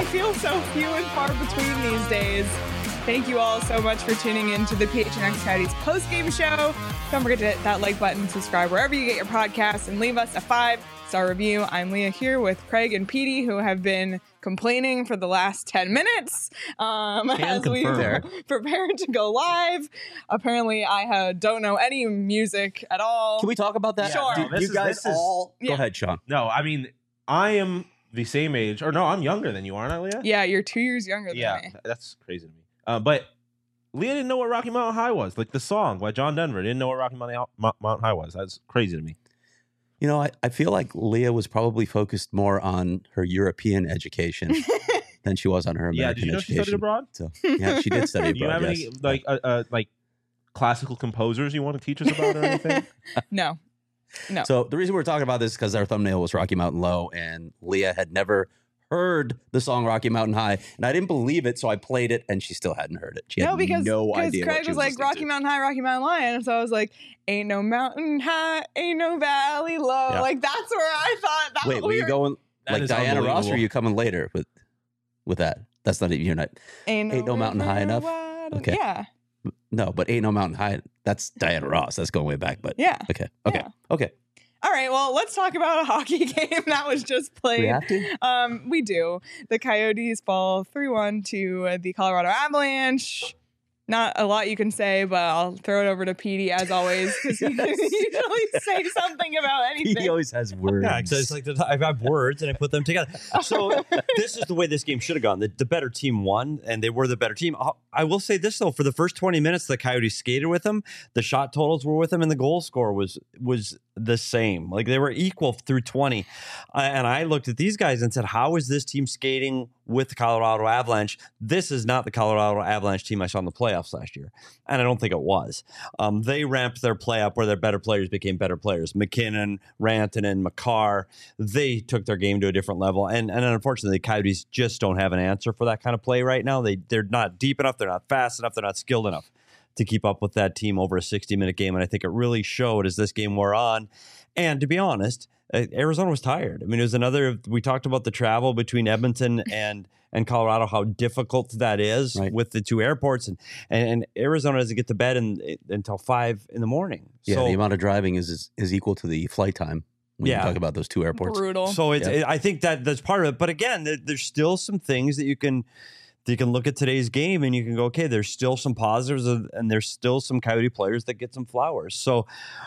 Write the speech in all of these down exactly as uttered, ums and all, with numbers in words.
feel so few and far between these days. Thank you all so much for tuning in to the P H N X Coyotes post-game show. Don't forget to hit that like button, subscribe wherever you get your podcasts, and leave us a five-star review. I'm Leah here with Craig and Petey, who have been complaining for the last ten minutes um, as we prepare to go live. Apparently, I uh, don't know any music at all. Can we talk about that? Sure. Do, No, you is, guys all... is, Go yeah. ahead, Sean. No, I mean, I am the same age, or no, I'm younger than you, aren't I, Leah? Yeah, you're two years younger than yeah, me. that's crazy to me. Uh, but Leah didn't know what Rocky Mountain High was. Like the song by John Denver didn't know what Rocky Mountain, Mountain High was. That's crazy to me. You know, I, I feel like Leah was probably focused more on her European education than she was on her American Yeah, did you know education. she studied abroad? So, yeah, she did study Do you abroad, have yes. any like uh, uh, like classical composers you want to teach us about or anything? No. No. So the reason we're talking about this is because our thumbnail was Rocky Mountain Low, and Leah had never heard the song Rocky Mountain High, and I didn't believe it, so I played it, and she still hadn't heard it. She had no, because no because idea Craig what she was was like listening Rocky to. Mountain High, Rocky Mountain High, and so I was like, ain't no mountain high, ain't no valley low. Yeah. Like that's where I thought that Wait, were we you were, going That like is Diana Ross, or are unbelievable. you coming later with with that? That's not even you're not. ain't ain't no mountain river high enough? wide- Okay. Yeah. No, but ain't no mountain high. That's Diana Ross. That's going way back. But Yeah. okay, okay, Yeah. okay. All right, well, let's talk about a hockey game that was just played. We have to. Um, we do. The Coyotes fall three one to the Colorado Avalanche. Not a lot you can say, but I'll throw it over to Petey as always because he can usually say something about anything. He always has words. Yeah, because it's like the, I have words and I put them together. So this is the way this game should have gone. The, the better team won, and they were the better team. I'll, I will say this though: for the first twenty minutes, the Coyotes skated with them. The shot totals were with them, and the goal score was was the same. Like they were equal through twenty. Uh, and I looked at these guys and said, "How is this team skating with the Colorado Avalanche? This is not the Colorado Avalanche team I saw in the playoffs last year." And I don't think it was. Um, they ramped their play up where their better players became better players. McKinnon, Rantanen, Makar, they took their game to a different level. And and unfortunately, the Coyotes just don't have an answer for that kind of play right now. They, they're not deep enough. They're not fast enough. They're not skilled enough to keep up with that team over a sixty-minute game. And I think it really showed as this game wore on. And to be honest, uh, Arizona was tired. I mean, it was another, we talked about the travel between Edmonton and and Colorado, how difficult that is Right. with the two airports. And, and, and Arizona doesn't get to bed in, until five in the morning. Yeah, so, the amount of driving is is, is equal to the flight time when Yeah. you talk about those two airports. Brutal. So it's, Yeah. it, I think that that's part of it. But again, there, there's still some things that you can that you can look at today's game and you can go, okay, there's still some positives of, and there's still some Coyote players that get some flowers. So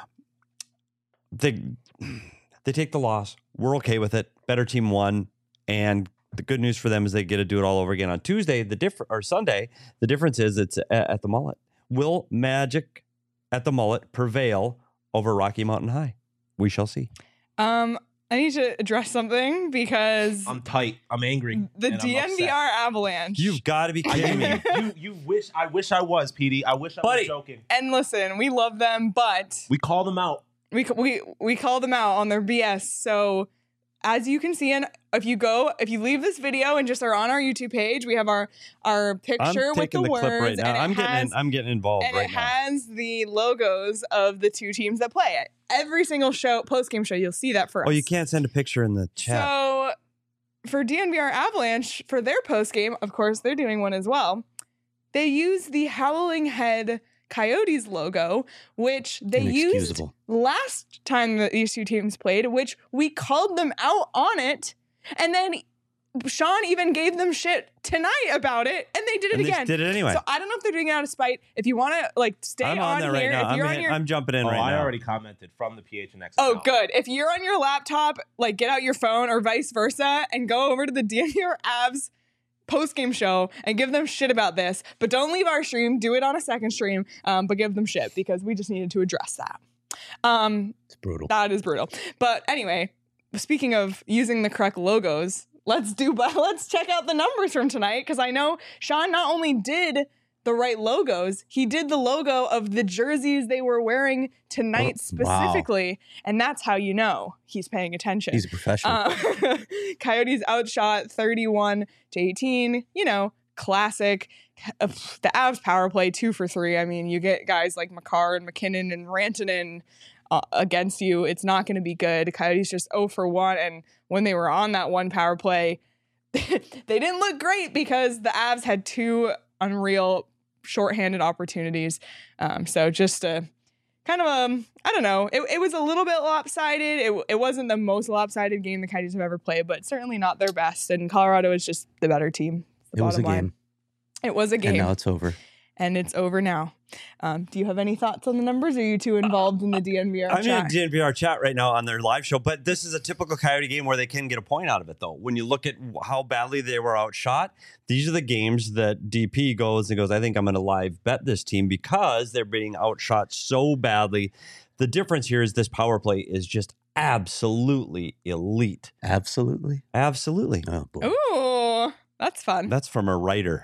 they they take the loss. We're okay with it. Better team won, and the good news for them is they get to do it all over again on Tuesday. The diff- or Sunday. The difference is it's at, at the Mullet. Will Magic at the Mullet prevail over Rocky Mountain High? We shall see. Um, I need to address something because I'm tight. I'm angry. the and I'm D N V R Avalanche. You've got to be kidding me. you you wish I wish I was, Petey. I wish I Buddy. was joking. and listen, we love them, but We called them out. we we we call them out on their B S. So as you can see, and if you go, if you leave this video and just are on our YouTube page, we have our our I'm picture with taking the, the, words, clip right now. and it I'm getting has, in, I'm getting involved and right it now. has the logos of the two teams that play it. Every single show, post game show, you'll see that for us. Oh, you can't send a picture in the chat. So for D N V R Avalanche, for their post game, of course, they're doing one as well. They use the Howling Head Coyotes logo, which they used Inexcusable. last time that these two teams played, which we called them out on it. And then Sean even gave them shit tonight about it, and they did it And they again. did it anyway. So I don't know if they're doing it out of spite. If you want to like stay I'm on, on there right here, now. if I'm, you're on in- your I'm jumping in Oh, right I now. already commented from the P H N X. Oh, account. good. If you're on your laptop, like get out your phone or vice versa and go over to the D N V R Avs post-game show and give them shit about this. But don't leave our stream. Do it on a second stream, um, but give them shit because we just needed to address that. Um, It's brutal. that is brutal. But anyway, speaking of using the correct logos, let's do. Let's check out the numbers from tonight because I know Sean not only did the right logos, he did the logo of the jerseys they were wearing tonight Oh, wow. specifically, and that's how you know he's paying attention. He's a professional. Uh, Coyotes outshot thirty-one to eighteen. You know, classic. Uh, the Avs power play two for three. I mean, you get guys like Makar and McKinnon and Rantanen uh, against you. It's not going to be good. Coyotes just zero for one, and when they were on that one power play, they didn't look great because the Avs had two unreal shorthanded opportunities. Um, so just a kind of a, I don't know, it, it was a little bit lopsided. It, it wasn't the most lopsided game the Coyotes have ever played, but certainly not their best. And Colorado is just the better team. The It was a bottom line. game. It was a game. And now it's over. And it's over now. Um, do you have any thoughts on the numbers? Or are you too involved in the D N V R I'm chat? in the D N V R chat right now on their live show, but this is a typical Coyote game where they can get a point out of it, though. When you look at how badly they were outshot, these are the games that D P goes and goes, I think I'm going to live bet this team because they're being outshot so badly. The difference here is this power play is just absolutely elite. Absolutely. Absolutely. Oh, boy. Ooh, that's fun. That's from a writer.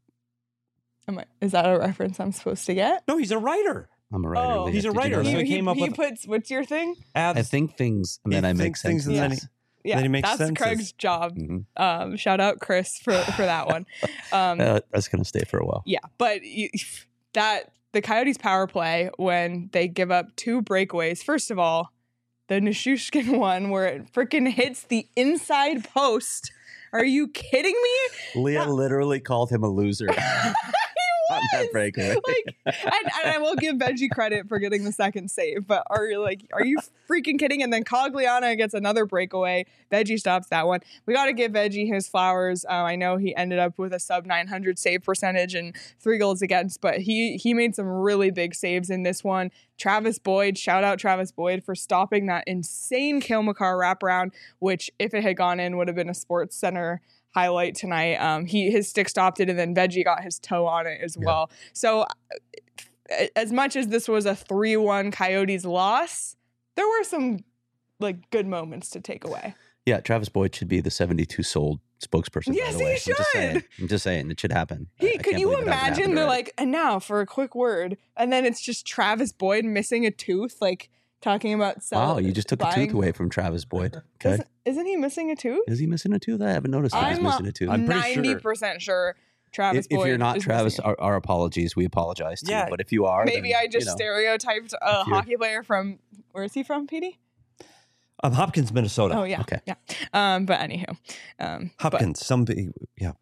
Am I, is that a reference I'm supposed to get? No, he's a writer. I'm a writer. Oh. Leah. He's a Did you writer, know so that? he he, came up he with- puts, what's your thing? Abs- I think things, and He then I make thinks things sense. and then Yes. Yeah, Then he makes that's senses. Craig's job. Mhm. Um, shout out Chris for, for that one. Um, Uh, that's going to stay for a while. yeah, but you, that the Coyotes power play when they give up two breakaways. First of all, the Nishushkin one where it freaking hits the inside post. Are you kidding me? Leah literally called him a loser on that breakaway. Like, and, and I will give Veggie credit for getting the second save, but are you like, are you freaking kidding? And then Cogliano gets another breakaway. Veggie stops that one. We got to give Veggie his flowers. Uh, I know he ended up with a sub nine hundred save percentage and three goals against, but he he made some really big saves in this one. Travis Boyd, shout out Travis Boyd for stopping that insane Cale Makar wraparound, which if it had gone in would have been a Sports Center highlight tonight. Um, he his stick stopped it, and then Veggie got his toe on it as well. So, uh, as much as this was a three one Coyotes loss, there were some like good moments to take away. Yeah, Travis Boyd should be the seventy-two sold spokesperson. Yes, by the he way. I'm just saying. should. I'm just saying it should happen. I- He, I could can't you believe it hasn't imagine? happened They're already. like, and now for a quick word, and then it's just Travis Boyd missing a tooth, like talking about wow, sell- you just took a buying- tooth away from Travis Boyd. Okay, Isn't, isn't he missing a tooth? is he missing a tooth? I haven't noticed that he's I'm missing a tooth. I'm pretty sure- ninety percent sure Travis if, if Boyd. you're not is Travis, missing our, our apologies. We apologize to Yeah. you. But if you are, Maybe then, I just you know, stereotyped a if you're- hockey player from, where is he from, Petey? Um, Hopkins, Minnesota. Oh, yeah. Okay. Yeah. Um, but anywho. Um, but- Hopkins, somebody, yeah.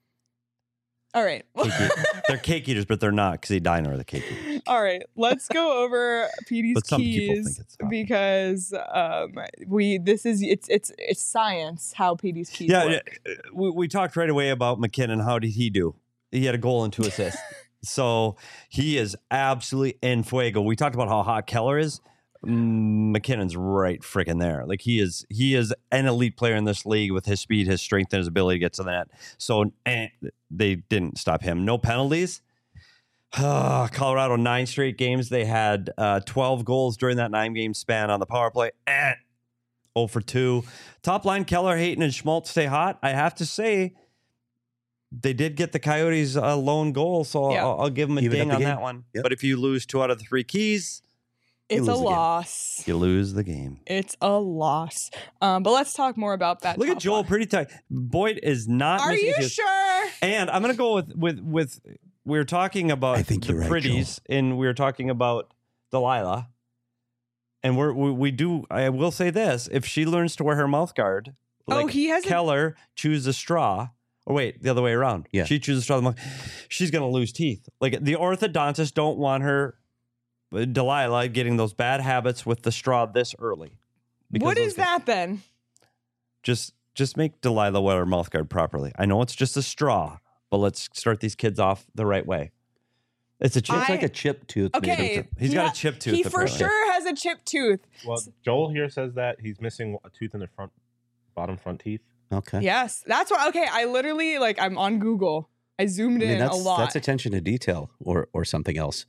all right. Cake eat- they're cake eaters, but they're not because Edina are the cake eaters. All right. Let's go over Petey's But some people keys think it's not. because um, we, this is, it's, it's, it's science how Petey's keys Yeah, work. yeah, we, we talked right away about McKinnon. How did he do? He had a goal and two assists. So he is absolutely en fuego. We talked about how hot Keller is. Mm, McKinnon's right freaking there. Like he is, he is an elite player in this league with his speed, his strength, and his ability to get to the net. So eh, they didn't stop him. No penalties. Colorado nine straight games. They had uh, twelve goals during that nine game span on the power play. Eh, oh for two. Top line: Keller, Hayton, and Schmaltz stay hot. I have to say, they did get the Coyotes a lone goal, so Yeah. I'll, I'll give them a Even ding up the on game. that one. Yep. But if you lose two out of the three keys, It's a lose the game. loss. you lose the game. It's a loss. Um, but let's talk more about that. Look at top Joel, line. pretty tight. Boyd is not. Are missing you a tooth. sure? And I'm gonna go with with with. We were talking about I think the you're right, pretties, and we were talking about Delilah. And we're, we we do. I will say this: if she learns to wear her mouth guard, Oh, like he has a- Keller choose a straw. Or wait, the other way around. Yeah. She chooses straw. The mouth. She's gonna lose teeth. Like the orthodontists don't want her, uh, Delilah, getting those bad habits with the straw this early. Because What those is things- that then? Just just make Delilah wear her mouth guard properly. I know it's just a straw, but let's start these kids off the right way. It's a chip. I- It's like a chip tooth. made Okay, of- He's he got ha- a chip tooth. He for apparently. sure has a chipped tooth. Well, Joel here says that he's missing a tooth in the front, bottom front teeth. Okay. Yes, that's what. Okay, I literally like I'm on Google. I zoomed I mean, in that's, a lot. that's attention to detail or or something else.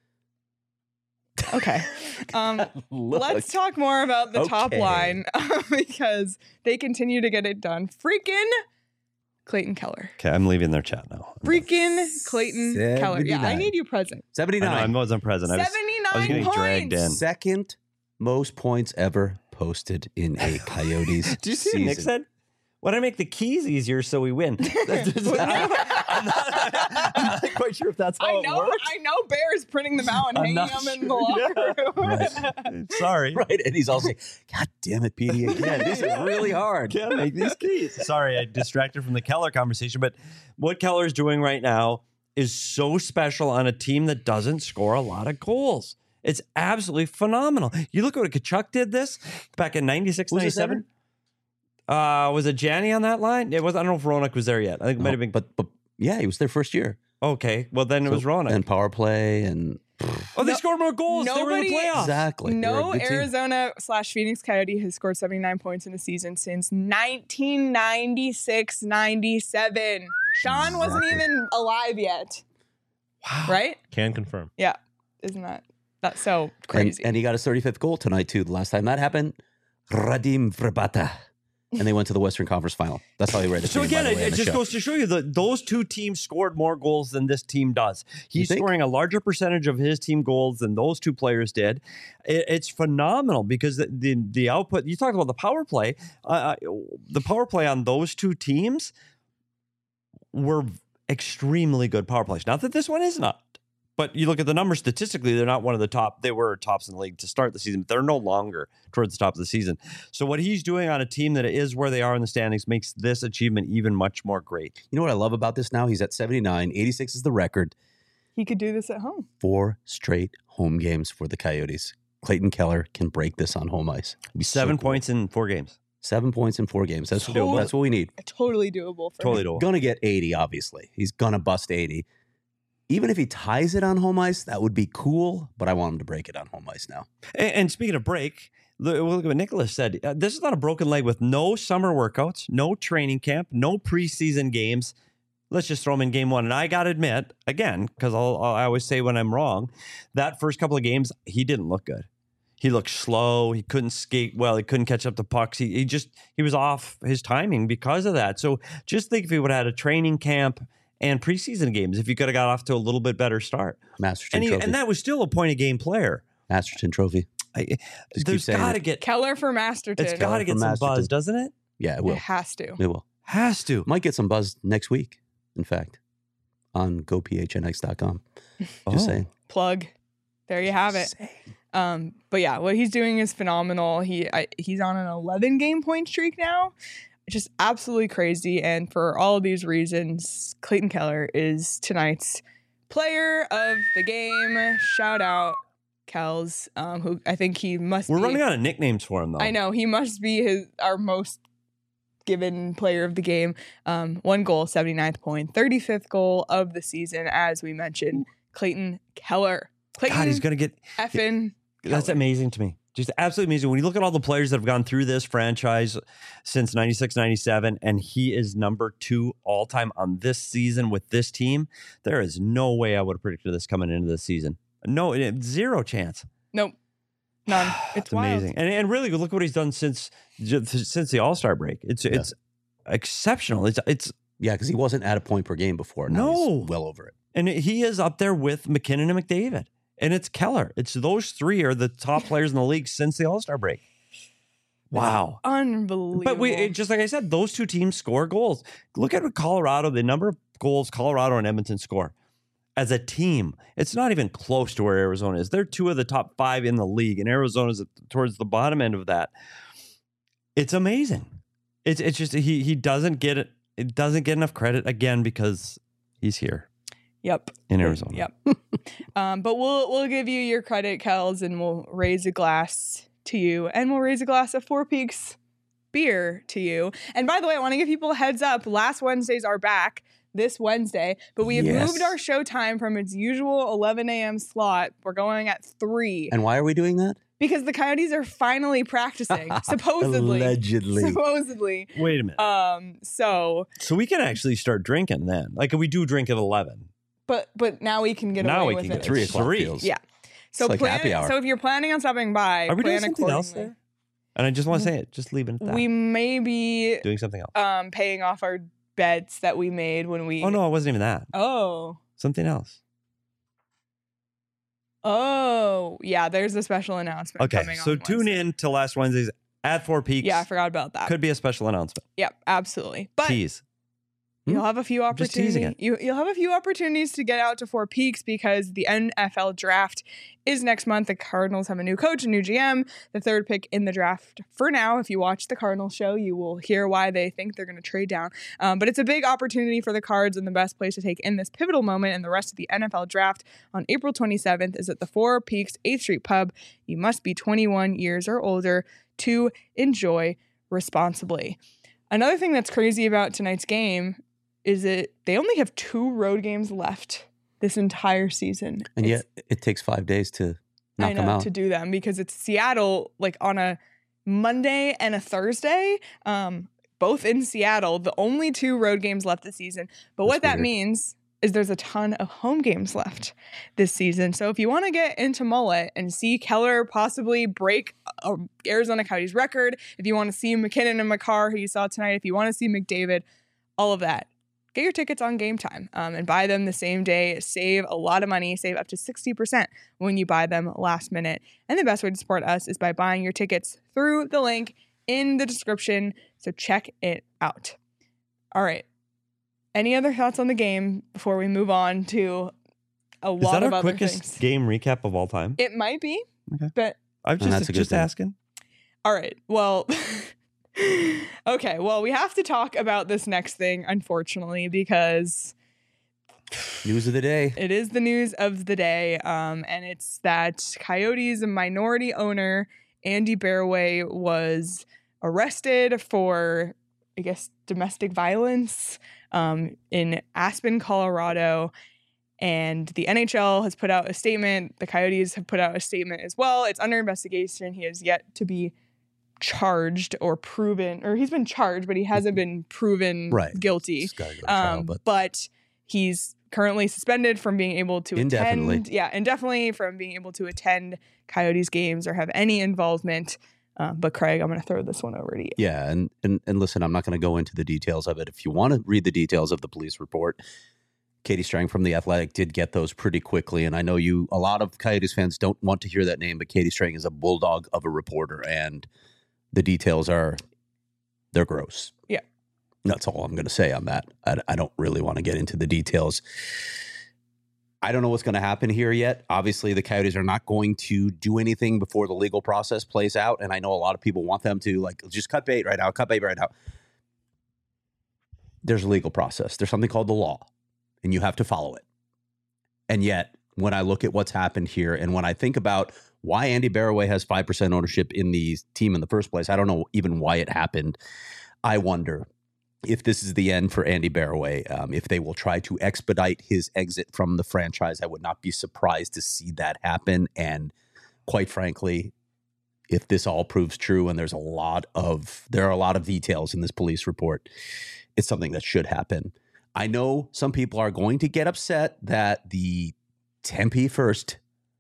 Okay. Um, Look. let's talk more about the top Okay. line because they continue to get it done. Freaking Clayton Keller. Okay, I'm leaving their chat now. Freaking Clayton Keller. Yeah, I seventy-nine. need you present. I, know, I seventy-nine. wasn't present. I was, I was seventy-nine getting points. dragged in. Second most points ever posted in a Coyotes Did you see season. what Nick said? Why don't I make the keys easier so we win? I'm, not, I'm not quite sure if that's how I it know. works. I know. Bear's printing them out and I'm hanging not them in the sure. locker Yeah. room. Sorry. Right. And he's all saying, God damn it, Petey, again. This is really hard. Can't make these keys. Sorry, I distracted from the Keller conversation. But what Keller's doing right now is so special on a team that doesn't score a lot of goals. It's absolutely phenomenal. You look at what Kachuk did this back in ninety-six, Was it ninety-seven. Uh, was it Janney on that line? It was. I don't know if Ronak was there yet. I think it might No, have been. but, but yeah, he was there first year. Okay, well then it So- was Ronak. And power play and oh, they No- scored more goals. They were in the nobody- playoffs. exactly. They're a No good team. Arizona slash Phoenix Coyote has scored seventy-nine points in a season since nineteen ninety-six ninety-seven. Sean wasn't Exactly. even alive yet. Wow. Right? Can confirm. Yeah. Isn't that that's so And, crazy? and he got his thirty-fifth goal tonight, too. The last time that happened, Radim Vrbata. And they went to the Western Conference Final. That's how he read it. So to me, by again, the it, way, on it the just show. goes to show you that those two teams scored more goals than this team does. He's think? scoring a larger percentage of his team goals than those two players did. It, it's phenomenal because the, the the output. You talked about the power play. Uh, the power play on those two teams were extremely good power plays. Not that this one is not. But you look at the numbers statistically, they're not one of the top. They were tops in the league to start the season, but they're no longer towards the top of the season. So what he's doing on a team that is where they are in the standings makes this achievement even much more great. You know what I love about this now? He's at seventy-nine. eighty-six is the record. He could do this at home. Four straight home games for the Coyotes. Clayton Keller can break this on home ice. It'd be so Seven cool. points in four games. Seven points in four games. That's, Totally. that's what we need. Totally doable for Totally him. doable. Gonna get eighty, obviously. He's gonna bust eighty. Even if he ties it on home ice, that would be cool, but I want him to break it on home ice now. And, and speaking of break, look, look at what Nicholas said. Uh, this is not a broken leg with no summer workouts, no training camp, no preseason games. Let's just throw him in game one. And I got to admit, again, because I'll, I'll, I always say when I'm wrong, that first couple of games, he didn't look good. He looked slow. He couldn't skate well. He couldn't catch up to pucks. He, he just, he was off his timing because of that. So just think if he would have had a training camp and preseason games, if he could have got off to a little bit better start. Masterton And, he, Trophy. and that was still a point a game player. Masterton Trophy. I, keep there's saying got to it. get, Keller for Masterton. it's got to get from some Masterton. buzz, doesn't it? Yeah, it It will. has to. It will. Has to. Might get some buzz next week, in fact, on go p h n x dot com. Just Oh. saying. Plug. There you have it. Um, but yeah, what he's doing is phenomenal. He I, he's on an eleven game point streak now. Just absolutely crazy. And for all of these reasons, Clayton Keller is tonight's player of the game. Shout out Kels, um, who I think he must We're be. running out of nicknames for him, though. I know he must be his our most given player of the game. Um, one goal, seventy-ninth point, thirty-fifth goal of the season, as we mentioned. Clayton Keller. Clayton God, he's going to get. effing That's Keller. amazing to me. Just absolutely amazing. When you look at all the players that have gone through this franchise since ninety-six, ninety-seven, and he is number two all time on this season with this team, there is no way I would have predicted this coming into this season. No, it- zero chance. Nope. None. It's It's wild. amazing. And and really, look what he's done since since the All Star break. It's Yeah. it's exceptional. It's it's Yeah, because he wasn't at a point per game before. Now No. he's well over it. and he is up there with McKinnon and McDavid. And it's Keller. It's those three are the top players in the league since the All Star break. Wow. Unbelievable. But we it- just like I said, those two teams score goals. Look at what Colorado, the number of goals Colorado and Edmonton score as a team. It's not even close to where Arizona is. They're two of the top five in the league, and Arizona's towards the bottom end of that. It's amazing. It's it's just he he doesn't get it. It doesn't get enough credit again because he's here Yep. in Arizona. Yep. um, but we'll we'll give you your credit, Kels, and we'll raise a glass to you, and we'll raise a glass of Four Peaks beer to you. And by the way, I want to give people a heads up. Last Wednesdays are back this Wednesday, but we have Yes. moved our show time from its usual eleven a.m. slot. We're going at three And why are we doing that? because the Coyotes are finally practicing, supposedly. Allegedly. Supposedly. Wait a minute. Um. So, so we can actually start drinking then. Like we do drink at eleven. but but now we can get Now away we with can it. get Three It's o'clock three. feels. Yeah. So like plan, happy hour. So if you're planning on stopping by, Are we doing plan something else accordingly. there? And I just want to say it. Just leave it at that. We may be doing something else. um paying off our bets that we made when we. Oh no, it wasn't even that. Oh. Something else. Oh. Yeah. There's a special announcement. Okay, Coming so on tune Wednesday. in to last Wednesday's at Four Peaks. Yeah, I forgot about that. Could be a special announcement. Yep. Absolutely. But Tease. You'll have a few Just teasing opportunities. it. You, you'll have a few opportunities to get out to Four Peaks because the N F L draft is next month. The Cardinals have a new coach, a new G M, the third pick in the draft. For now, if you watch the Cardinals show, you will hear why they think they're going to trade down. Um, but it's a big opportunity for the Cards, and the best place to take in this pivotal moment and the rest of the N F L draft on April twenty-seventh is at the Four Peaks eighth Street Pub. You must be twenty-one years or older to enjoy responsibly. Another thing that's crazy about tonight's game is it they only have two road games left this entire season. And It's- yet it takes five days to knock I know them out. to do them because it's Seattle like on a Monday and a Thursday, um, both in Seattle. The only two road games left this season. But what That's that weird. means is there's a ton of home games left this season. So if you want to get into Mullet and see Keller possibly break uh, Arizona Coyotes record, if you want to see McKinnon and McCarr, who you saw tonight, if you want to see McDavid, all of that, get your tickets on Game Time um, and buy them the same day. Save a lot of money. Save up to sixty percent when you buy them last minute. And the best way to support us is by buying your tickets through the link in the description. So check it out. All right. Any other thoughts on the game before we move on to a Is lot that of our other quickest things? game recap of all time? It might be, Okay. but I'm And that's just a good just thing. asking. all right. Well, okay. Well, we have to talk about this next thing, unfortunately, because News of the day. it is the news of the day. Um, and it's that Coyotes minority owner, Andy Barroway, was arrested for, I guess, domestic violence um, in Aspen, Colorado. And the N H L has put out a statement. The Coyotes have put out a statement as well. It's under investigation. He has yet to be charged or proven, or he's been charged, but he hasn't been proven Right. guilty. Just gotta go to trial, Um, but but he's currently suspended from being able to Indefinitely. attend. Yeah, indefinitely from being able to attend Coyotes games or have any involvement. Uh, but Craig, I'm going to throw this one over to you. yeah, and and and listen, I'm not going to go into the details of it. If you want to read the details of the police report, Katie Strang from The Athletic did get those pretty quickly. And I know you, a lot of Coyotes fans don't want to hear that name, but Katie Strang is a bulldog of a reporter, and the details are, they're gross. Yeah. That's all I'm going to say on that. I, I don't really want to get into the details. I don't know what's going to happen here yet. Obviously, the Coyotes are not going to do anything before the legal process plays out. And I know a lot of people want them to, like, just cut bait right now, cut bait right now. There's a legal process. There's something called the law, and you have to follow it. And yet, when I look at what's happened here, and when I think about why Andy Barroway has five percent ownership in the team in the first place, I don't know even why it happened. I wonder if this is the end for Andy Barroway, um, if they will try to expedite his exit from the franchise. I would not be surprised to see that happen. And quite frankly, if this all proves true, and there's a lot of, there are a lot of details in this police report, it's something that should happen. I know some people are going to get upset that the Tempe First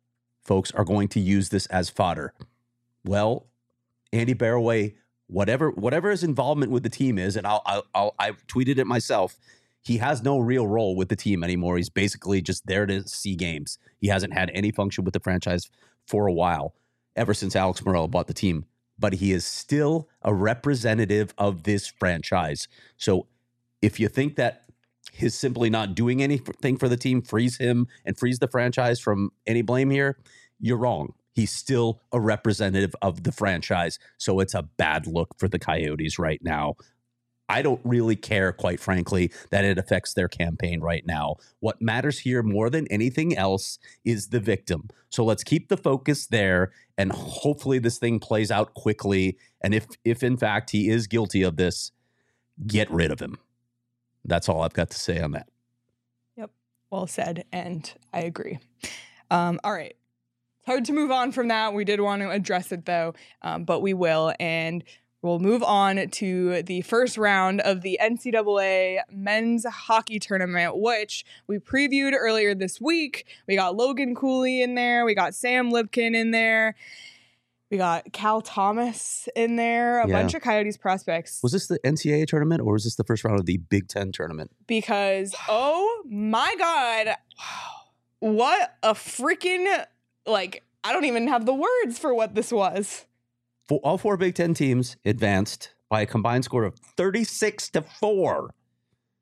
folks are going to use this as fodder. Well, Andy Barroway, whatever whatever his involvement with the team is, and I'll, I'll, I'll I tweeted it myself, he has no real role with the team anymore. He's basically just there to see games. He hasn't had any function with the franchise for a while, ever since Alex Morello bought the team. But he is still a representative of this franchise. So if you think that his simply not doing anything for the team frees him and frees the franchise from any blame here, you're wrong. He's still a representative of the franchise. So it's a bad look for the Coyotes right now. I don't really care, quite frankly, that it affects their campaign right now. What matters here more than anything else is the victim. So let's keep the focus there, and hopefully this thing plays out quickly. And if, if in fact he is guilty of this, get rid of him. That's all I've got to say on that. Yep. Well said. And I agree. Um, all right. It's hard to move on from that. We did want to address it though, um, but we will. And we'll move on to the first round of the N C double A men's hockey tournament, which we previewed earlier this week. We got Logan Cooley in there. We got Sam Lipkin in there. We got Cal Thomas in there, a Yeah. bunch of Coyotes prospects. Was this the N C double A tournament, or was this the first round of the Big Ten tournament? Because, oh my God, what a freaking, like, I don't even have the words for what this was. For all four Big Ten teams advanced by a combined score of thirty-six to four.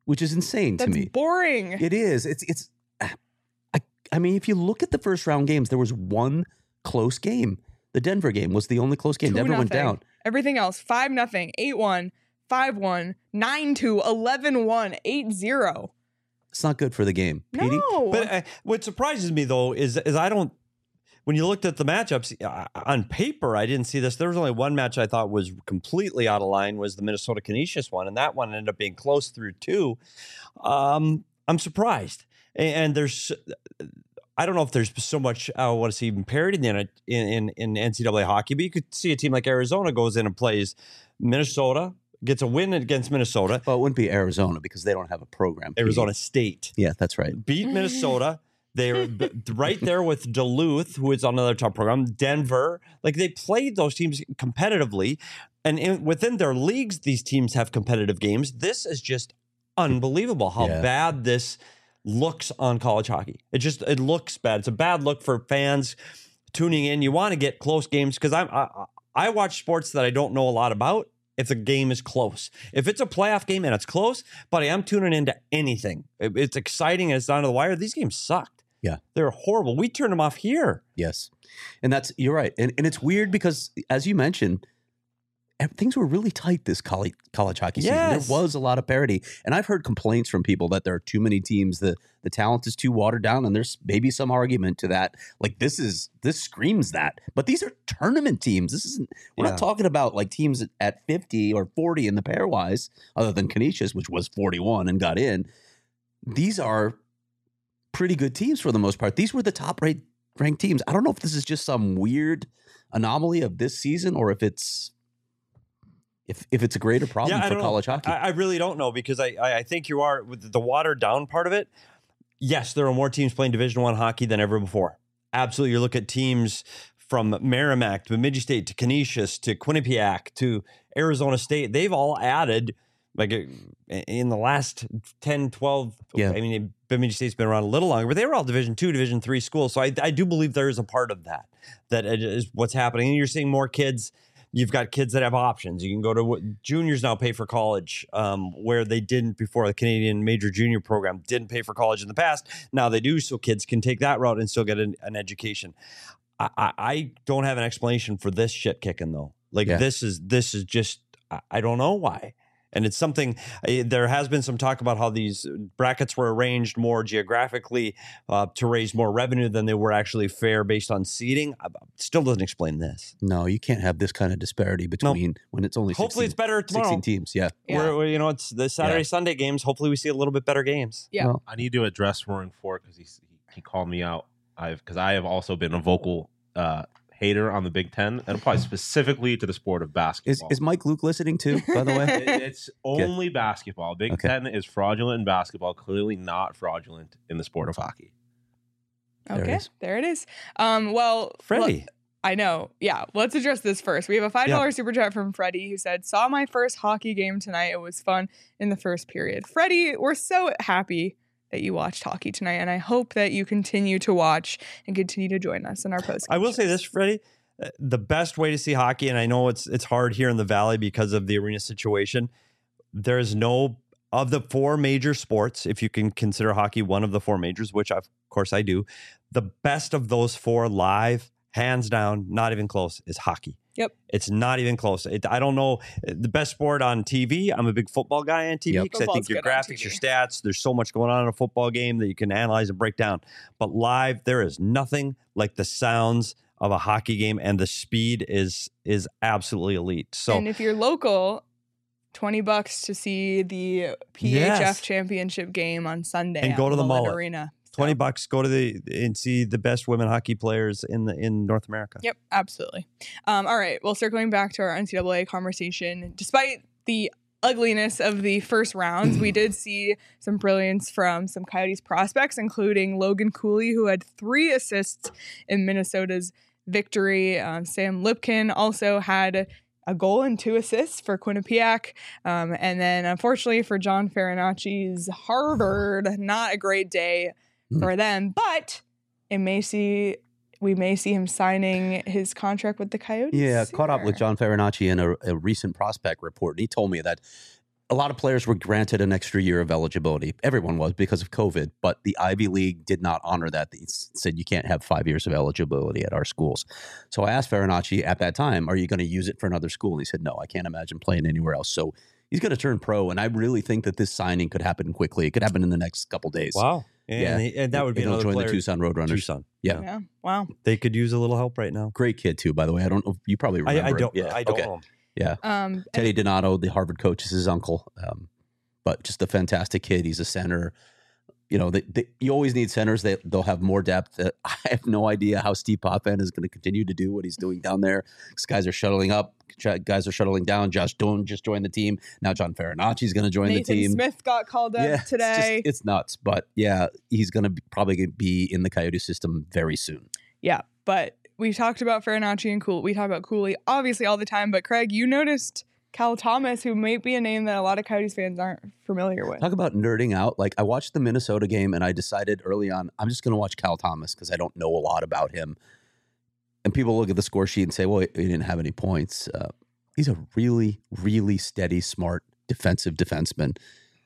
which is insane That's to me. boring. It is. It's it's. I I mean, if you look at the first round games, there was one close game. The Denver game was the only close game. Two Denver went nothing. down. Everything else, five nothing, eight one, five one, nine two, eleven one, eight zero. It's not good for the game. Petey? No. But uh, what surprises me though is is I don't. When you looked at the matchups uh, on paper, I didn't see this. There was only one match I thought was completely out of line, was the Minnesota Canisius one, and that one ended up being close through two. Um, I'm surprised, and, and there's. I don't know if there's so much I want to see even parity in, it, in in in N C double A hockey, but you could see a team like Arizona goes in and plays Minnesota, gets a win against Minnesota. Well, it wouldn't be Arizona because they don't have a program. Petey. Arizona State Yeah, that's right. beat Minnesota. They're b- right there with Duluth, who is on another top program. Denver, like they played those teams competitively, and in, within their leagues, these teams have competitive games. This is just unbelievable how Yeah. bad this looks on college hockey. It just it looks bad. It's a bad look for fans tuning in. You want to get close games because I'm I, I watch sports that I don't know a lot about. If the game is close, if it's a playoff game and it's close, buddy, I'm tuning into anything. It, it's exciting and it's down to the wire. These games sucked. Yeah. They're horrible. We turned them off here. Yes. And that's, you're right. And, and it's weird because, as you mentioned, ev- things were really tight this college, college hockey season. Yes. There was a lot of parity. And I've heard complaints from people that there are too many teams, the, the talent is too watered down, and there's maybe some argument to that. Like, this is, this screams that. But these are tournament teams. This isn't, we're Yeah. not talking about like teams at- at fifty or forty in the pairwise, other than Canisius, which was forty-one and got in. These are pretty good teams for the most part. These were the top rate ranked teams. I don't know if this is just some weird anomaly of this season or if it's if if it's a greater problem I for don't college know. hockey. I, I really don't know because I, I I think you are with the watered down part of it. Yes, there are more teams playing Division One hockey than ever before. Absolutely, you look at teams from Merrimack to Bemidji State to Canisius to Quinnipiac to Arizona State. They've all added like in the last ten, twelve. Yeah. I mean, Bemidji State's been around a little longer, but they were all Division Two, Division Three schools. So I, I do believe there is a part of that that is what's happening. And you're seeing more kids. You've got kids that have options. You can go to juniors now pay for college, um, where they didn't before. The Canadian Major Junior program didn't pay for college in the past. Now they do, so kids can take that route and still get an, an education. I, I, I don't have an explanation for this shit kicking though. Like Yeah. this is this is just I, I don't know why. And it's something, uh, there has been some talk about how these brackets were arranged more geographically uh, to raise more revenue than they were actually fair based on seeding. Uh, Still doesn't explain this. no, you can't have this kind of disparity between when it's only Hopefully sixteen, it's better tomorrow. sixteen teams. Yeah. Yeah. Where, where, you know, it's the Saturday, Yeah. Sunday games. Hopefully we see a little bit better games. Yeah. Well, I need to address Roaring Fork because he he he called me out. I've because I have also been a vocal uh, hater on the Big Ten and applies specifically to the sport of is basketball. is Mike Luke listening too, by the way? It- it's only basketball. Big Okay. Ten is fraudulent in basketball, clearly not fraudulent in the sport of hockey. There it Okay, is. there it is. Um, well, Freddie. look, I know. Yeah, let's address this first. We have a five dollar super chat from Freddie who said, "Saw my first hockey game tonight. It was fun in the first period." Freddie, we're so happy that you watched hockey tonight, and I hope that you continue to watch and continue to join us in our post. I will say this, Freddie. uh, The best way to see hockey, and I know it's it's hard here in the Valley because of the arena situation, there's no, of the four major sports, if you can consider hockey one of the four majors, which of course I do, the best of those four live, hands down, not even close, is hockey. Yep. It's not even close. It, I don't know the best sport on T V. I'm a big football guy on T V Yep. because I think Football's your good on graphics, T V. your stats, there's so much going on in a football game that you can analyze and break down. But live, there is nothing like the sounds of a hockey game, and the speed is is absolutely elite. So and if you're local, twenty bucks to see the P H F Yes. championship game on Sunday And at go to the Mullet Mullet. Arena. twenty So- bucks, go to the and see the best women hockey players in the in North America. Yep, absolutely. Um, all right. Well, circling back to our N C double A conversation, despite the ugliness of the first rounds, we did see some brilliance from some Coyotes prospects, including Logan Cooley, who had three assists in Minnesota's victory. Um, Sam Lipkin also had a goal and two assists for Quinnipiac. Um, and then, unfortunately, for John Farinacci's Harvard, not a great day Hmm. for them, but it may see we may see him signing his contract with the Coyotes. Yeah, caught up with sooner. John Farinacci in a, a recent prospect report. And he told me that a lot of players were granted an extra year of eligibility. Everyone was because of COVID, but the Ivy League did not honor that. They said you can't have five years of eligibility at our schools. So I asked Farinacci at that time, are you going to use it for another school? And he said, no, I can't imagine playing anywhere else. So he's going to turn pro, and I really think that this signing could happen quickly. It could happen in the next couple days. Wow. And, Yeah. he- and that would be And he'll another join player. the Tucson Roadrunners. Tucson. Yeah. Yeah. Wow. They could use a little help right now. Great kid, too, by the way. I don't know. You probably I, remember I don't. him. Yeah. I don't okay. know. Yeah. Um, Teddy Donato, the Harvard coach, is his uncle. Um, but just a fantastic kid. He's a center. You know, they, they, you always need centers. They, they'll have more depth. Uh, I have no idea how Steve Potvin is going to continue to do what he's doing down there. These guys are shuttling up. Guys are shuttling down. Josh Doan just joined the team. Now John Farinacci is going to join Nathan the team. Smith got called up yeah, today. It's, just, it's nuts. But yeah, he's going to be, probably gonna be in the Coyote system very soon. Yeah, but we talked about Farinacci and Cooley. We talk about Cooley obviously all the time. But Craig, you noticed Cal Thomas, who might be a name that a lot of Coyotes fans aren't familiar with. Talk about nerding out. Like I watched the Minnesota game and I decided early on, I'm just going to watch Cal Thomas because I don't know a lot about him. And people look at the score sheet and say, well, he didn't have any points. Uh, he's a really, really steady, smart, defensive defenseman.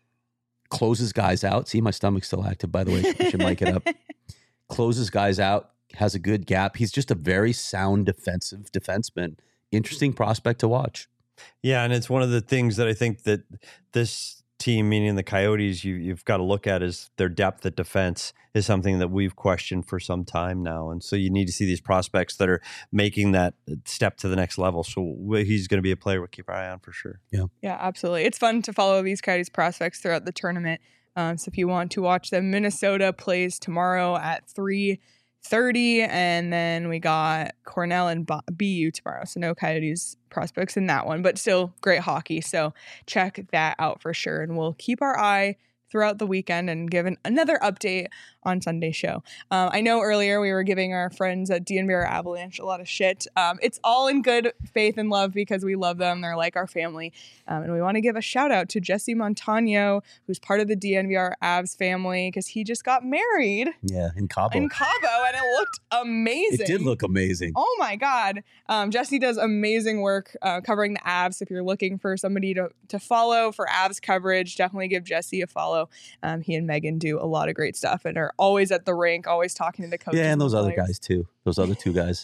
Closes guys out. See, my stomach's still active, by the way. I should mic it up. Closes guys out. Has a good gap. He's just a very sound defensive defenseman. Interesting prospect to watch. Yeah, and it's one of the things that I think that this team, meaning the Coyotes, you, you've got to look at is their depth at defense is something that we've questioned for some time now. And so you need to see these prospects that are making that step to the next level. So he's going to be a player we'll keep our eye on for sure. Yeah, Yeah, absolutely. It's fun to follow these Coyotes prospects throughout the tournament. Um, so if you want to watch them, Minnesota plays tomorrow at three thirty, and then we got Cornell and B U tomorrow. So no Coyotes prospects in that one, but still great hockey. So check that out for sure. And we'll keep our eye throughout the weekend and give an, another update on Sunday's show. Um, I know earlier we were giving our friends at D N V R Avalanche a lot of shit. Um, it's all in good faith and love because we love them. They're like our family. Um, and we want to give a shout out to Jesse Montano, who's part of the D N V R Avs family because he just got married yeah, in Cabo. in Cabo and it looked amazing. It did look amazing. Oh my God. Um, Jesse does amazing work uh, covering the Avs. If you're looking for somebody to, to follow for Avs coverage, definitely give Jesse a follow. Um, he and Megan do a lot of great stuff and are always at the rink, always talking to the coaches. Yeah, and those the other players. guys too. Those other two guys.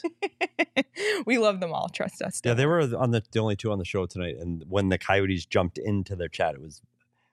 We love them all. Trust us. Yeah, they were on the, the only two on the show tonight. And when the Coyotes jumped into their chat, it was,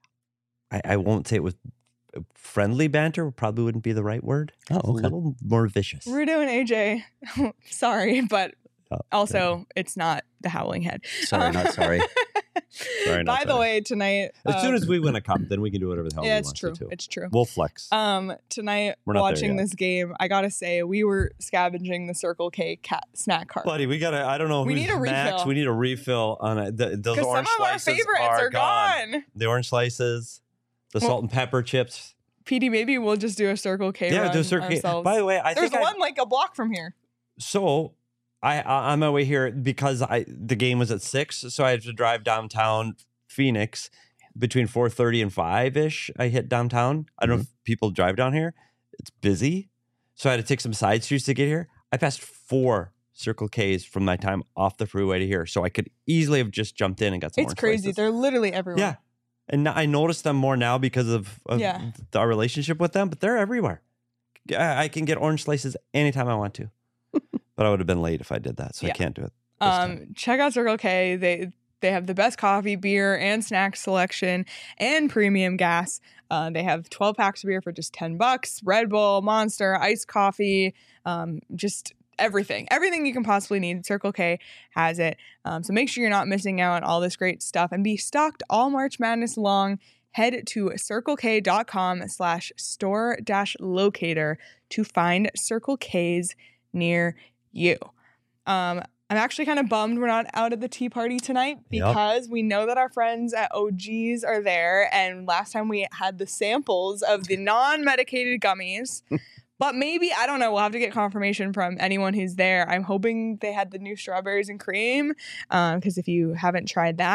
I, I won't say it was friendly banter, probably wouldn't be the right word. Oh, It's okay. a little more vicious. Rudo and A J, sorry, but Oh, also it's not the Howling Head. Sorry, not sorry. Sorry, not By the sorry. way, tonight. As soon um, as we win a cup, then we can do whatever the hell yeah, we it's want true. to. Too. It's true. We'll flex. Um, tonight, We're not there watching yet. this game, I gotta say, we were scavenging the Circle K cat snack cart. Buddy, we gotta. I don't know. We who's need a Max. refill. We need a refill on it. The, those Because some orange of our slices favorites are, are gone. The orange slices, the Well- salt and pepper chips. P D, maybe we'll just do a Circle K Yeah, run do a Circle K. ourselves. By the way, I There's think I- one like a block from here. So I, I on my way here because I the game was at six, so I had to drive downtown Phoenix between four thirty and five ish. I hit downtown. I don't know if people drive down here. It's busy, so I had to take some side streets to get here. I passed four Circle K's from my time off the freeway to here, so I could easily have just jumped in and got some. It's orange crazy. slices. They're literally everywhere. Yeah, and now I notice them more now because of, of Yeah. th- our relationship with them, but they're everywhere. I, I can get orange slices anytime I want to. But I would have been late if I did that, so Yeah. I can't do it. this time. Um, check out Circle K. They they have the best coffee, beer, and snack selection, and premium gas. Uh, they have twelve packs of beer for just ten bucks. Red Bull, Monster, iced coffee, um, just everything, everything you can possibly need. Circle K has it. Um, so make sure you're not missing out on all this great stuff and be stocked all March Madness long. Head to circlek.com slash store dash locator to find Circle K's near you. Um, I'm actually kind of bummed we're not out at the tea party tonight Yep. because we know that our friends at O G's are there. And last time we had the samples of the non-medicated gummies. But maybe, I don't know, we'll have to get confirmation from anyone who's there. I'm hoping they had the new strawberries and cream because if you haven't tried that,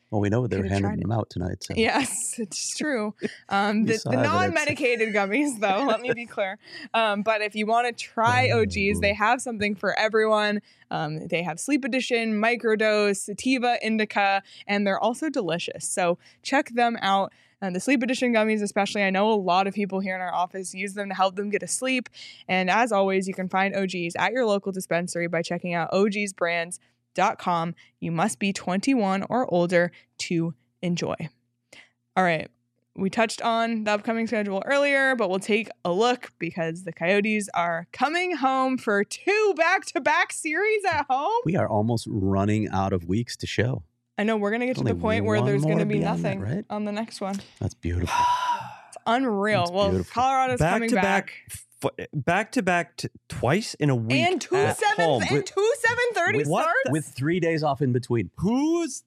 Well, we know they're Could've handing tried them out tonight. So. Yes, it's true. Um, We the saw the evidence. non-medicated gummies, though, let me be clear. Um, but if you want to try O Gs, they have something for everyone. Um, they have Sleep Edition, Microdose, Sativa, Indica, and they're also delicious. So check them out. And the Sleep Edition gummies, especially, I know a lot of people here in our office use them to help them get asleep. And as always, you can find O Gs at your local dispensary by checking out O Gs brands dot com. You must be twenty-one or older to enjoy. All right. We touched on the upcoming schedule earlier, but we'll take a look because the Coyotes are coming home for two back-to-back series at home. We are almost running out of weeks to show. I know we're going to get to Only the point where one there's going more to be beyond that, nothing right? on the next one. That's beautiful. It's unreal. That's well, beautiful. Colorado's Back coming to back. back, f- back to back, t- twice in a week. And two at seven home. and two seven thirty With- starts. With three days off in between. Who's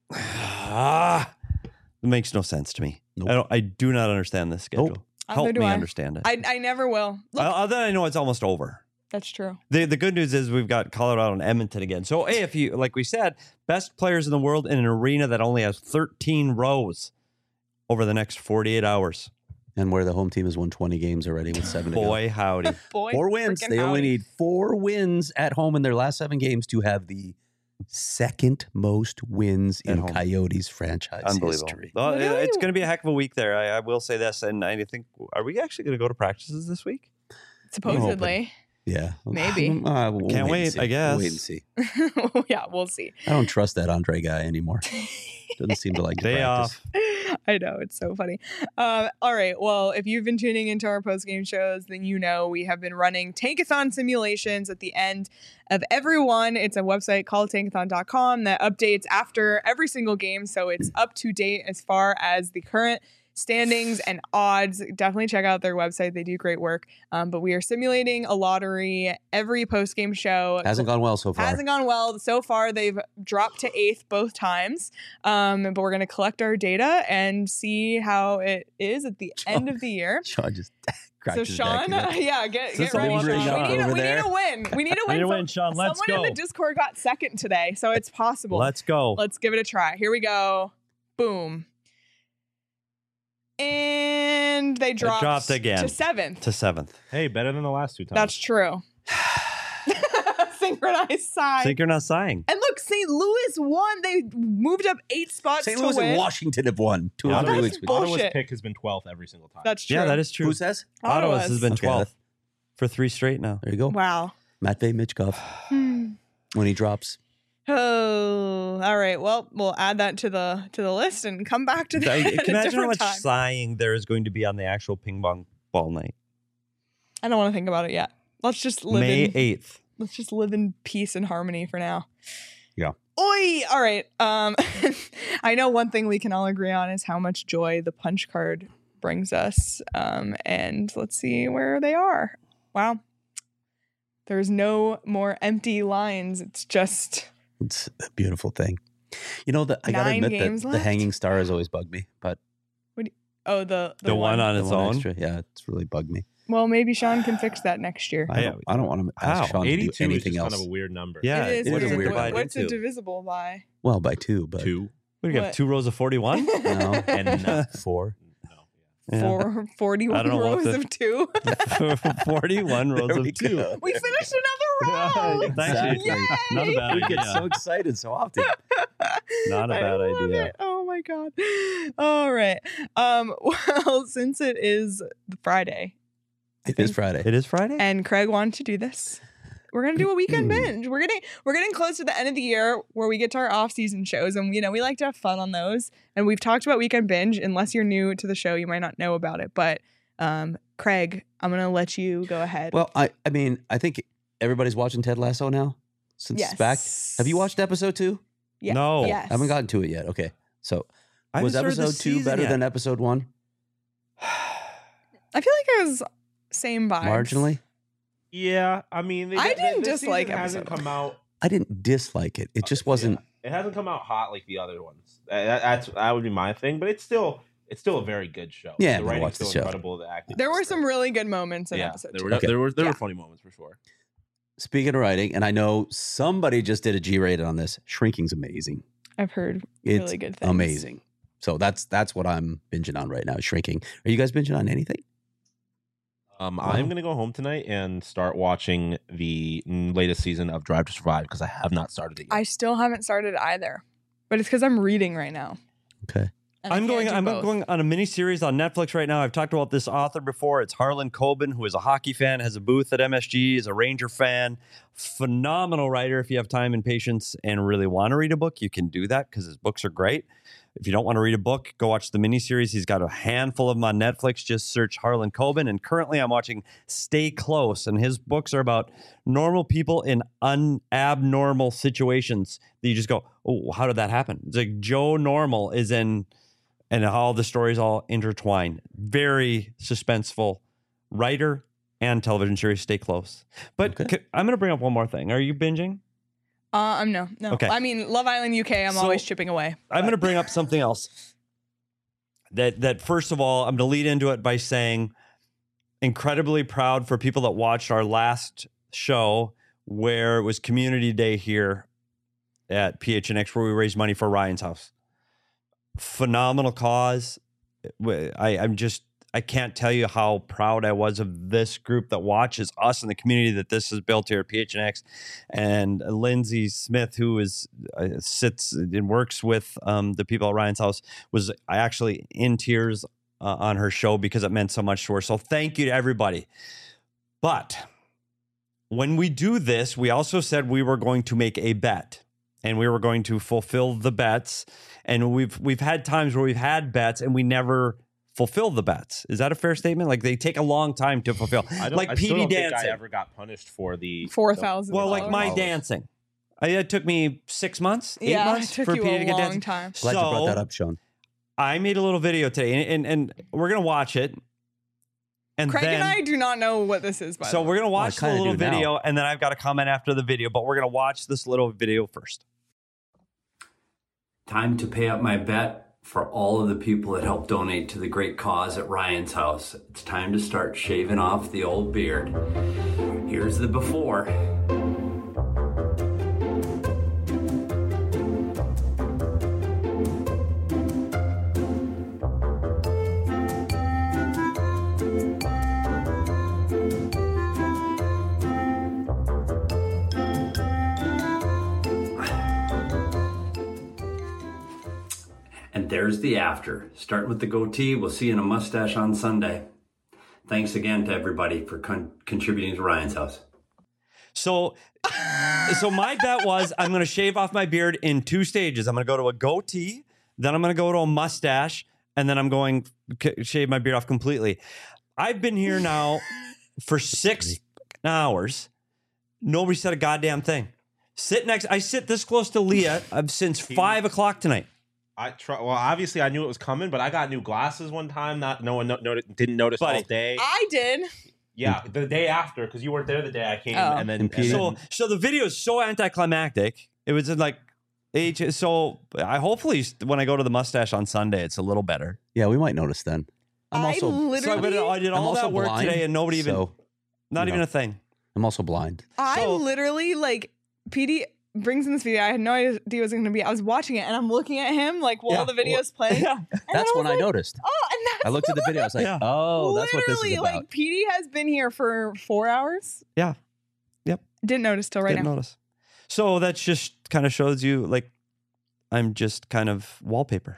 ah? It makes no sense to me. Nope. I don't. I do not understand this schedule. Nope. Neither Help do me I. understand it. I, I never will. Look, Uh, Other than I know it's almost over. that's true. The the good news is we've got Colorado and Edmonton again. So hey, if you like we said, best players in the world in an arena that only has thirteen rows over the next forty-eight hours. And where the home team has won twenty games already with seven to go. Boy, howdy. Boy, Four wins. freaking They only howdy. need four wins at home in their last seven games to have the second most wins At in home. Coyotes franchise Unbelievable. history. Well, it- Literally- it's going to be a heck of a week there. I, I will say this, and I think are we actually going to go to practices this week? Supposedly. Yeah. Maybe. Uh, we'll Can't and wait, see. I guess. We'll wait and see. Yeah, we'll see. I don't trust that Andre guy anymore. Doesn't seem to like to Day practice. off. I know, it's so funny. Um, all right. Well, if you've been tuning into our post-game shows, then you know we have been running Tankathon simulations at the end of every one. It's a website called tankathon dot com that updates after every single game. So it's up to date as far as the current standings and odds. Definitely check out their website. They do great work. Um, but we are simulating a lottery every post-game show. Hasn't gone well so far. Hasn't gone well so far. They've dropped to eighth both times. Um, but we're going to collect our data and see how it is at the end of the year. Sean just cracked So his Sean, neck. yeah, get, Is get this ready, something Sean. you bring We need, a, over we need there? a win. We need a win. need a Some- win, Sean. Let's Someone in go. the Discord got second today, so it's possible. Let's go. Let's give it a try. Here we go. Boom. And they dropped, dropped again. to seventh. to seventh. Hey, better than the last two times. That's true. Synchronized sigh. Think you're not sighing. And look, Saint Louis won. They moved up eight spots Saint to Louis win. and Washington have won two Yeah, or three that's weeks. bull- Ottawa's bullshit. pick has been twelfth every single time. That's true. Yeah, that is true. Who says? Ottawa's has been Okay, twelfth for three straight now. There you go. Wow. Matvey Michkov Hmm. when he drops. Oh, all right. Well, we'll add that to the to the list and come back to that I, at can a imagine how different much time. sighing there is going to be on the actual ping pong ball night. I don't want to think about it yet. Let's just live May in eighth. let's just live in peace and harmony for now. Yeah. Oi! All right. Um, I know one thing we can all agree on is how much joy the punch card brings us. Um, and let's see where they are. Wow. There's no more empty lines. It's just It's a beautiful thing. You know, the, I got to Nine admit games that the left? hanging star has always bugged me, but oh the the, The one on the its one own. extra, yeah, it's really bugged me. Well, maybe Sean can fix that next year. I Yeah. don't, I don't want to How? ask Sean to do eighty-two is anything just else. kind of a weird number. Yeah, it is it is weird. a weird What- divide What's it into. divisible by? Well, by two, but Two. What do you What? have? Two rows of forty-one? no, And no. four. No. Yeah. Four, I forty-one don't know what rows the- of two. forty-one rows There of we two. go. We finished another round. Exactly. Yay! Not a bad We get idea. so excited so often. Not a I bad love idea. it. Oh my god. All right. Um. Well, since it is Friday, It is Friday. It is Friday? and Craig wanted to do this, we're gonna do a weekend Mm. binge. We're getting we're getting close to the end of the year where we get to our off-season shows, and you know we like to have fun on those. And we've talked about weekend binge. Unless you're new to the show, you might not know about it. But um, Craig, I'm gonna let you go ahead. Well, I, I mean, I think everybody's watching Ted Lasso now since yes. it's back. Have you watced episode two? Yeah. No. Yes. I haven't gotten to it yet. Okay. So I was haven't started the episode two season better yet. than episode one? I feel like it was same vibes. Marginally? Yeah, I mean, they, I they- didn't this dislike season hasn't episode come out. I didn't dislike it. It just wasn't. Yeah. It hasn't come out hot like the other ones. That, that's that would be my thing, but it's still it's still a very good show. Yeah, the I'm gonna writing's watch the still show. incredible. The acting. There is were some great. really good moments in yeah, episode there two. were Okay. there were there Yeah. were funny moments for sure. Speaking of writing, and I know somebody just did a G rated on this. Shrinking's amazing. I've heard It's really good things. amazing. So that's that's what I'm binging on right now. Shrinking. Are you guys binging on anything? Um, Wow. I'm gonna go home tonight and start watching the latest season of Drive to Survive because I have not started it yet. I still haven't started either, but it's because I'm reading right now. Okay. and I I'm can't going. do I'm both. going on a mini series on Netflix right now. I've talked about this author before. It's Harlan Coben, who is a hockey fan, has a booth at M S G, is a Ranger fan, phenomenal writer. If you have time and patience and really want to read a book, you can do that because his books are great. If you don't want to read a book, go watch the miniseries. He's got a handful of them on Netflix. Just search Harlan Coben. And currently I'm watching Stay Close. And his books are about normal people in unabnormal situations that you just go, oh, how did that happen? It's like Joe Normal is in, and how the stories all intertwine. Very suspenseful writer and television series. Stay Close. But Okay. c- I'm going to bring up one more thing. Are you binging? Uh, I'm no, no. Okay. I mean, Love Island U K. I'm So, always chipping away. I'm but- going to bring up something else. That that first of all, I'm going to lead into it by saying, incredibly proud for people that watched our last show where it was Community Day here at P H N X, where we raised money for Ryan's house. Phenomenal cause. I, I'm just I can't tell you how proud I was of this group that watches us and the community that this has built here at P H N X, and Lindsay Smith, who is uh, sits and works with um, the people at Ryan's house, was actually in tears uh, on her show because it meant so much to her. So thank you to everybody. But when we do this, we also said we were going to make a bet, and we were going to fulfill the bets. And we've we've had times where we've had bets and we never fulfill the bets. Is that a fair statement? Like they take a long time to fulfill. I don't, Like I P still D don't think dancing. I ever got punished for the four thousand. Well, like my Followers. dancing. I, it took me six months, eight Yeah, it months took for you P D a to get long dancing. time. Glad you brought So- that up, Sean. I made a little video today, and and, and we're gonna watch it. And Craig then, and I do not know what this is. By so the way. we're gonna watch the kinda little do now. video, and then I've got a comment after the video. But we're gonna watch this little video first. Time to pay up my bet for all of the people that helped donate to the great cause at Ryan's house. It's time to start shaving off the old beard. Here's the before. And there's the after. Starting with the goatee, we'll see you in a mustache on Sunday. Thanks again to everybody for con- contributing to Ryan's house. So, so my bet was I'm going to shave off my beard in two stages. I'm going to go to a goatee, then I'm going to go to a mustache, and then I'm going to shave my beard off completely. I've been here now for six hours. Nobody said a goddamn thing. Sit next. I sit this close to Leah uh, since five o'clock tonight. I try. Well, obviously I knew it was coming, but I got new glasses one time. Not no one no, no, didn't notice Buddy. all day. I did. Yeah, the day after because you weren't there the day I came, Oh. and then, And and Peter- then So, so the video is so anticlimactic. It was in like, H- so I hopefully when I go to the mustache on Sunday, it's a little better. Yeah, we might notice then. I'm I also So I, literally, went- I did I'm all also that work blind, today, and nobody even, so, not you even know. a thing. I'm also blind. I so- literally like P D brings in this video. I had no idea what it was going to be. I was watching it and I'm looking at him like while Yeah. the video's playing. Yeah. And then That's I when was I like, noticed. Oh, and that's I looked at the video. I was like, Yeah. oh, that's what this is literally, about. like P D has been here for four hours. Yeah. Yep. Didn't notice till right Didn't now. notice. So that just kind of shows you like I'm just kind of wallpaper.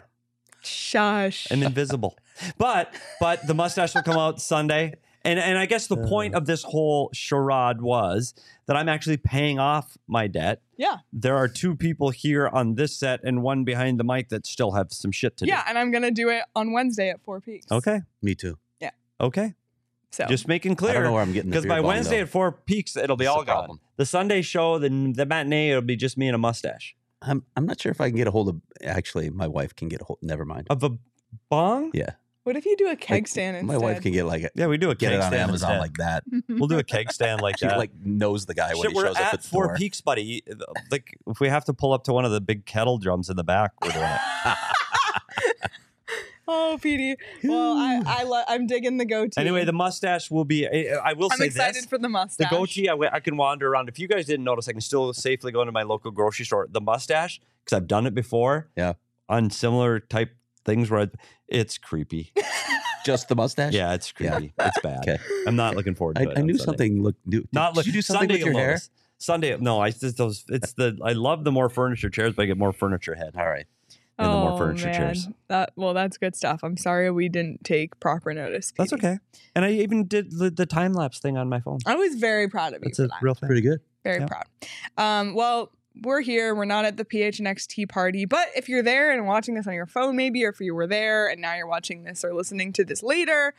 Shush. I'm invisible. But but the mustache will come out Sunday. And and I guess the point of this whole charade was that I'm actually paying off my debt. Yeah. There are two people here on this set and one behind the mic that still have some shit to Yeah, and I'm gonna do it on Wednesday at Four Peaks. do. Okay. Me too. Okay. So Just making I don't know clear. where I'm getting the Because by beard long, Wednesday though. at Four Peaks, it'll be That's all the gone. problem. The Sunday show, the, the matinee, it'll be just me and a mustache. I'm I'm not sure if I can get a hold of. Actually, my wife can get a hold. Never mind. Of a bong? Yeah, what if you do a keg Like, stand instead? my wife can get like a, Yeah, we do a get keg it on stand Amazon instead. like that. We'll do a keg stand like She that. like knows the guy when Shit, he we're shows up at at the Four door. Peaks, buddy. Like, if we have to pull up to one of the big kettle drums in the back, we're doing it. Oh, Petey. Well, I, I lo- I'm digging the goatee. Anyway, the mustache will be. I, I will I'm say excited this. for the mustache. The goatee, I, I can wander around. If you guys didn't notice, I can still safely go into my local grocery store. The mustache, because I've done it before. Yeah. On similar type things where I, it's creepy. Just the mustache? Yeah, it's creepy. It's bad. Okay. I'm not looking forward to I, it. I on knew Sunday. something looked new. Did, Not did look. you do something Sunday with your you'll hair? notice. Sunday, no, I just those. It's the. I love the more furniture chairs, but I get more furniture head. All right. And the more Oh, furniture man. chairs. That, well, that's good stuff. I'm sorry we didn't take proper notice. That's Petey. okay. And I even did the, the time lapse thing on my phone. I was very proud of you That's for a that. real thing. Pretty good. Very Yeah. proud. Um, well, we're here. We're not at the P H N X tea party, but if you're there and watching this on your phone, maybe, or if you were there and now you're watching this or listening to this later,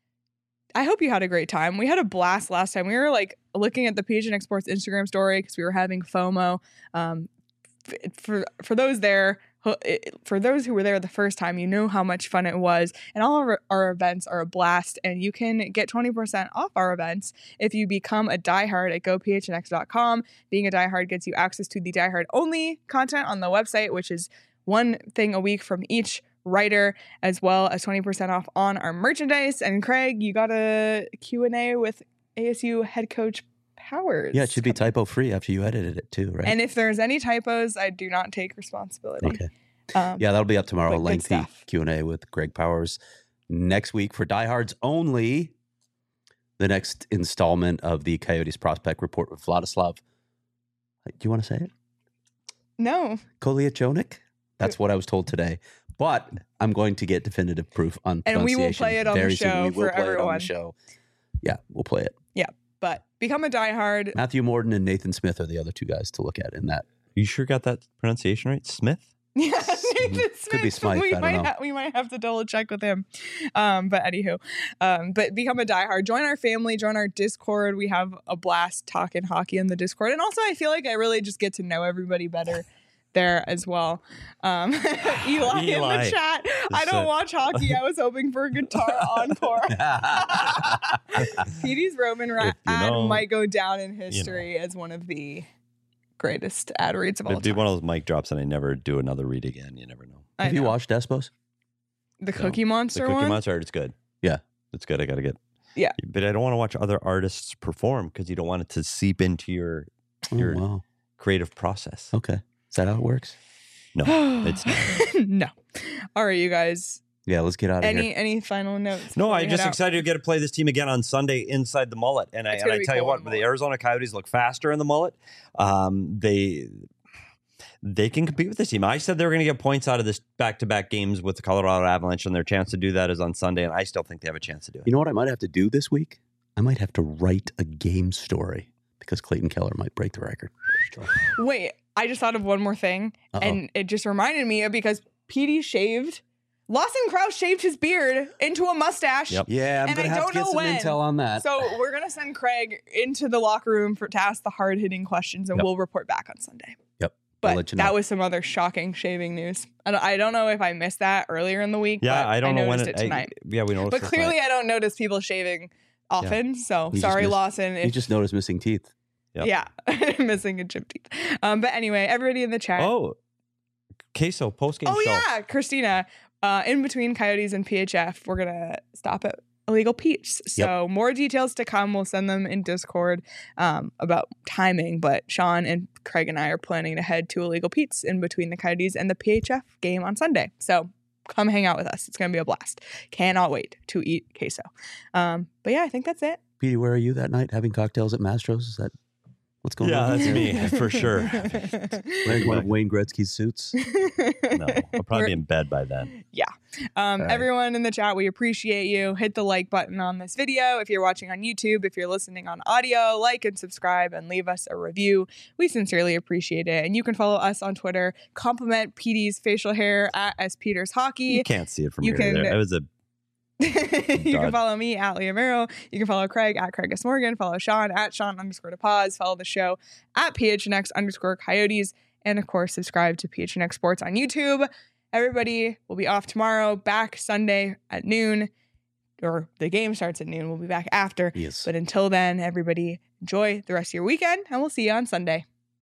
I hope you had a great time. We had a blast last time. We were like looking at the P H N X Sports Instagram story because we were having FOMO. Um, f- for for those there, ho- it- for those who were there the first time, you know how much fun it was. And all of our, our events are a blast. And you can get twenty percent off our events if you become a diehard at go p h n x dot com. Being a diehard gets you access to the diehard only content on the website, which is one thing a week from each writer, as well as twenty percent off on our merchandise. And Craig, you got a Q and A with A S U head coach Powers. Yeah, it should be typo free after you edited it too, right? And if there's any typos, I do not take responsibility. Okay. Um, Yeah, that'll be up tomorrow. but A good lengthy stuff. Q and A with Greg Powers next week for diehards only. The next installment of the Coyotes Prospect Report with Vladislav. Do you want to say it? No. Koliachonik? That's what I was told today. But I'm going to get definitive proof on And we will pronunciation play it on the very soon. show We will for play it on everyone. the show. Yeah, we'll play it. But become a diehard. Matthew Morton and Nathan Smith are the other two guys to look at in that. You sure got that pronunciation right? Smith? Yeah, Nathan Could be Smith. Smythe, We I don't might know. ha- we might have to double check with him. Um, but anywho, um, but become a diehard. Join our family. Join our Discord. We have a blast talking hockey in the Discord, and also I feel like I really just get to know everybody better there as well. Um, Eli, in Eli. the chat. I Just, don't uh, watch hockey. I was hoping for a guitar encore. Petey's Roman ra- If you ad know, might go down in history as one of the greatest ad reads of all It'd be time. one of those mic drops and I never do another read again. You never know. I Have you know. watched Despos? the No. Cookie The Monster Cookie one? Monster art is good. Yeah. It's good. I got to get. Yeah. But I don't want to watch other artists perform because you don't want it to seep into your Oh, Your- wow. creative process. Okay. Is that how it works? No, it's not. no. All right, you guys. Yeah, let's get out of Any here. any final notes? No, before we I'm head just out? excited to get to play this team again on Sunday inside the mullet. And I, It's and gonna I be tell you cool what, in the mullet. Arizona Coyotes look faster in the mullet. Um, they they can compete with this team. I said they were going to get points out of this back-to-back games with the Colorado Avalanche, and their chance to do that is on Sunday, and I still think they have a chance to do it. You know what I might have to do this week? I might have to write a game story because Clayton Keller might break the record. Wait, I just thought of one more thing, Uh-oh. and it just reminded me of because Petey shaved. Lawson Krause shaved his beard into a mustache. Yep. Yeah, I'm And going to I have don't to get know some when. intel on that. So we're gonna send Craig into the locker room for to ask the hard hitting questions, and Yep. we'll report back on Sunday. Yep. But I'll let you know. that was some other shocking shaving news. I don't, I don't know if I missed that earlier in the week. Yeah, but I don't know when noticed it, it tonight. I, yeah, we noticed. but it clearly, tonight. I don't notice people shaving often. So You just sorry, missed- Lawson. you If, just noticed missing teeth. Yep. Yeah, missing a chip teeth. Um, but anyway, everybody in the chat. Oh, queso post game Oh, show. yeah, Christina. Uh, in between Coyotes and P H F, we're gonna stop at Illegal Pete's. So more details to come. We'll send them in Discord um, about timing. But Sean and Craig and I are planning to head to Illegal Pete's in between the Coyotes and the P H F game on Sunday. So come hang out with us. It's gonna be a blast. Cannot wait to eat queso. Um, but yeah, I think that's it. Petey, where are you that night having cocktails at Mastro's? Is that what's going Yeah, on? that's here? me for sure. Wearing one of Wayne Gretzky's suits. No, I'll probably be in bed by then. Um, All right. Everyone in the chat, we appreciate you. Hit the like button on this video. If you're watching on YouTube, if you're listening on audio, like and subscribe and leave us a review. We sincerely appreciate it. And you can follow us on Twitter. Compliment Petey's facial hair at S Peters You Hockey. can't see it from You here. can- There. It was a You can God. follow me at Leah Merrill. You can follow Craig at Craig S. Morgan. Follow Sean at Sean underscore to pause. Follow the show at P H N X underscore Coyotes. And of course, subscribe to P H N X Sports on YouTube. Everybody will be off tomorrow, back Sunday at noon, or the game starts at noon. We'll be back after. Yes. But until then, everybody enjoy the rest of your weekend, and we'll see you on Sunday.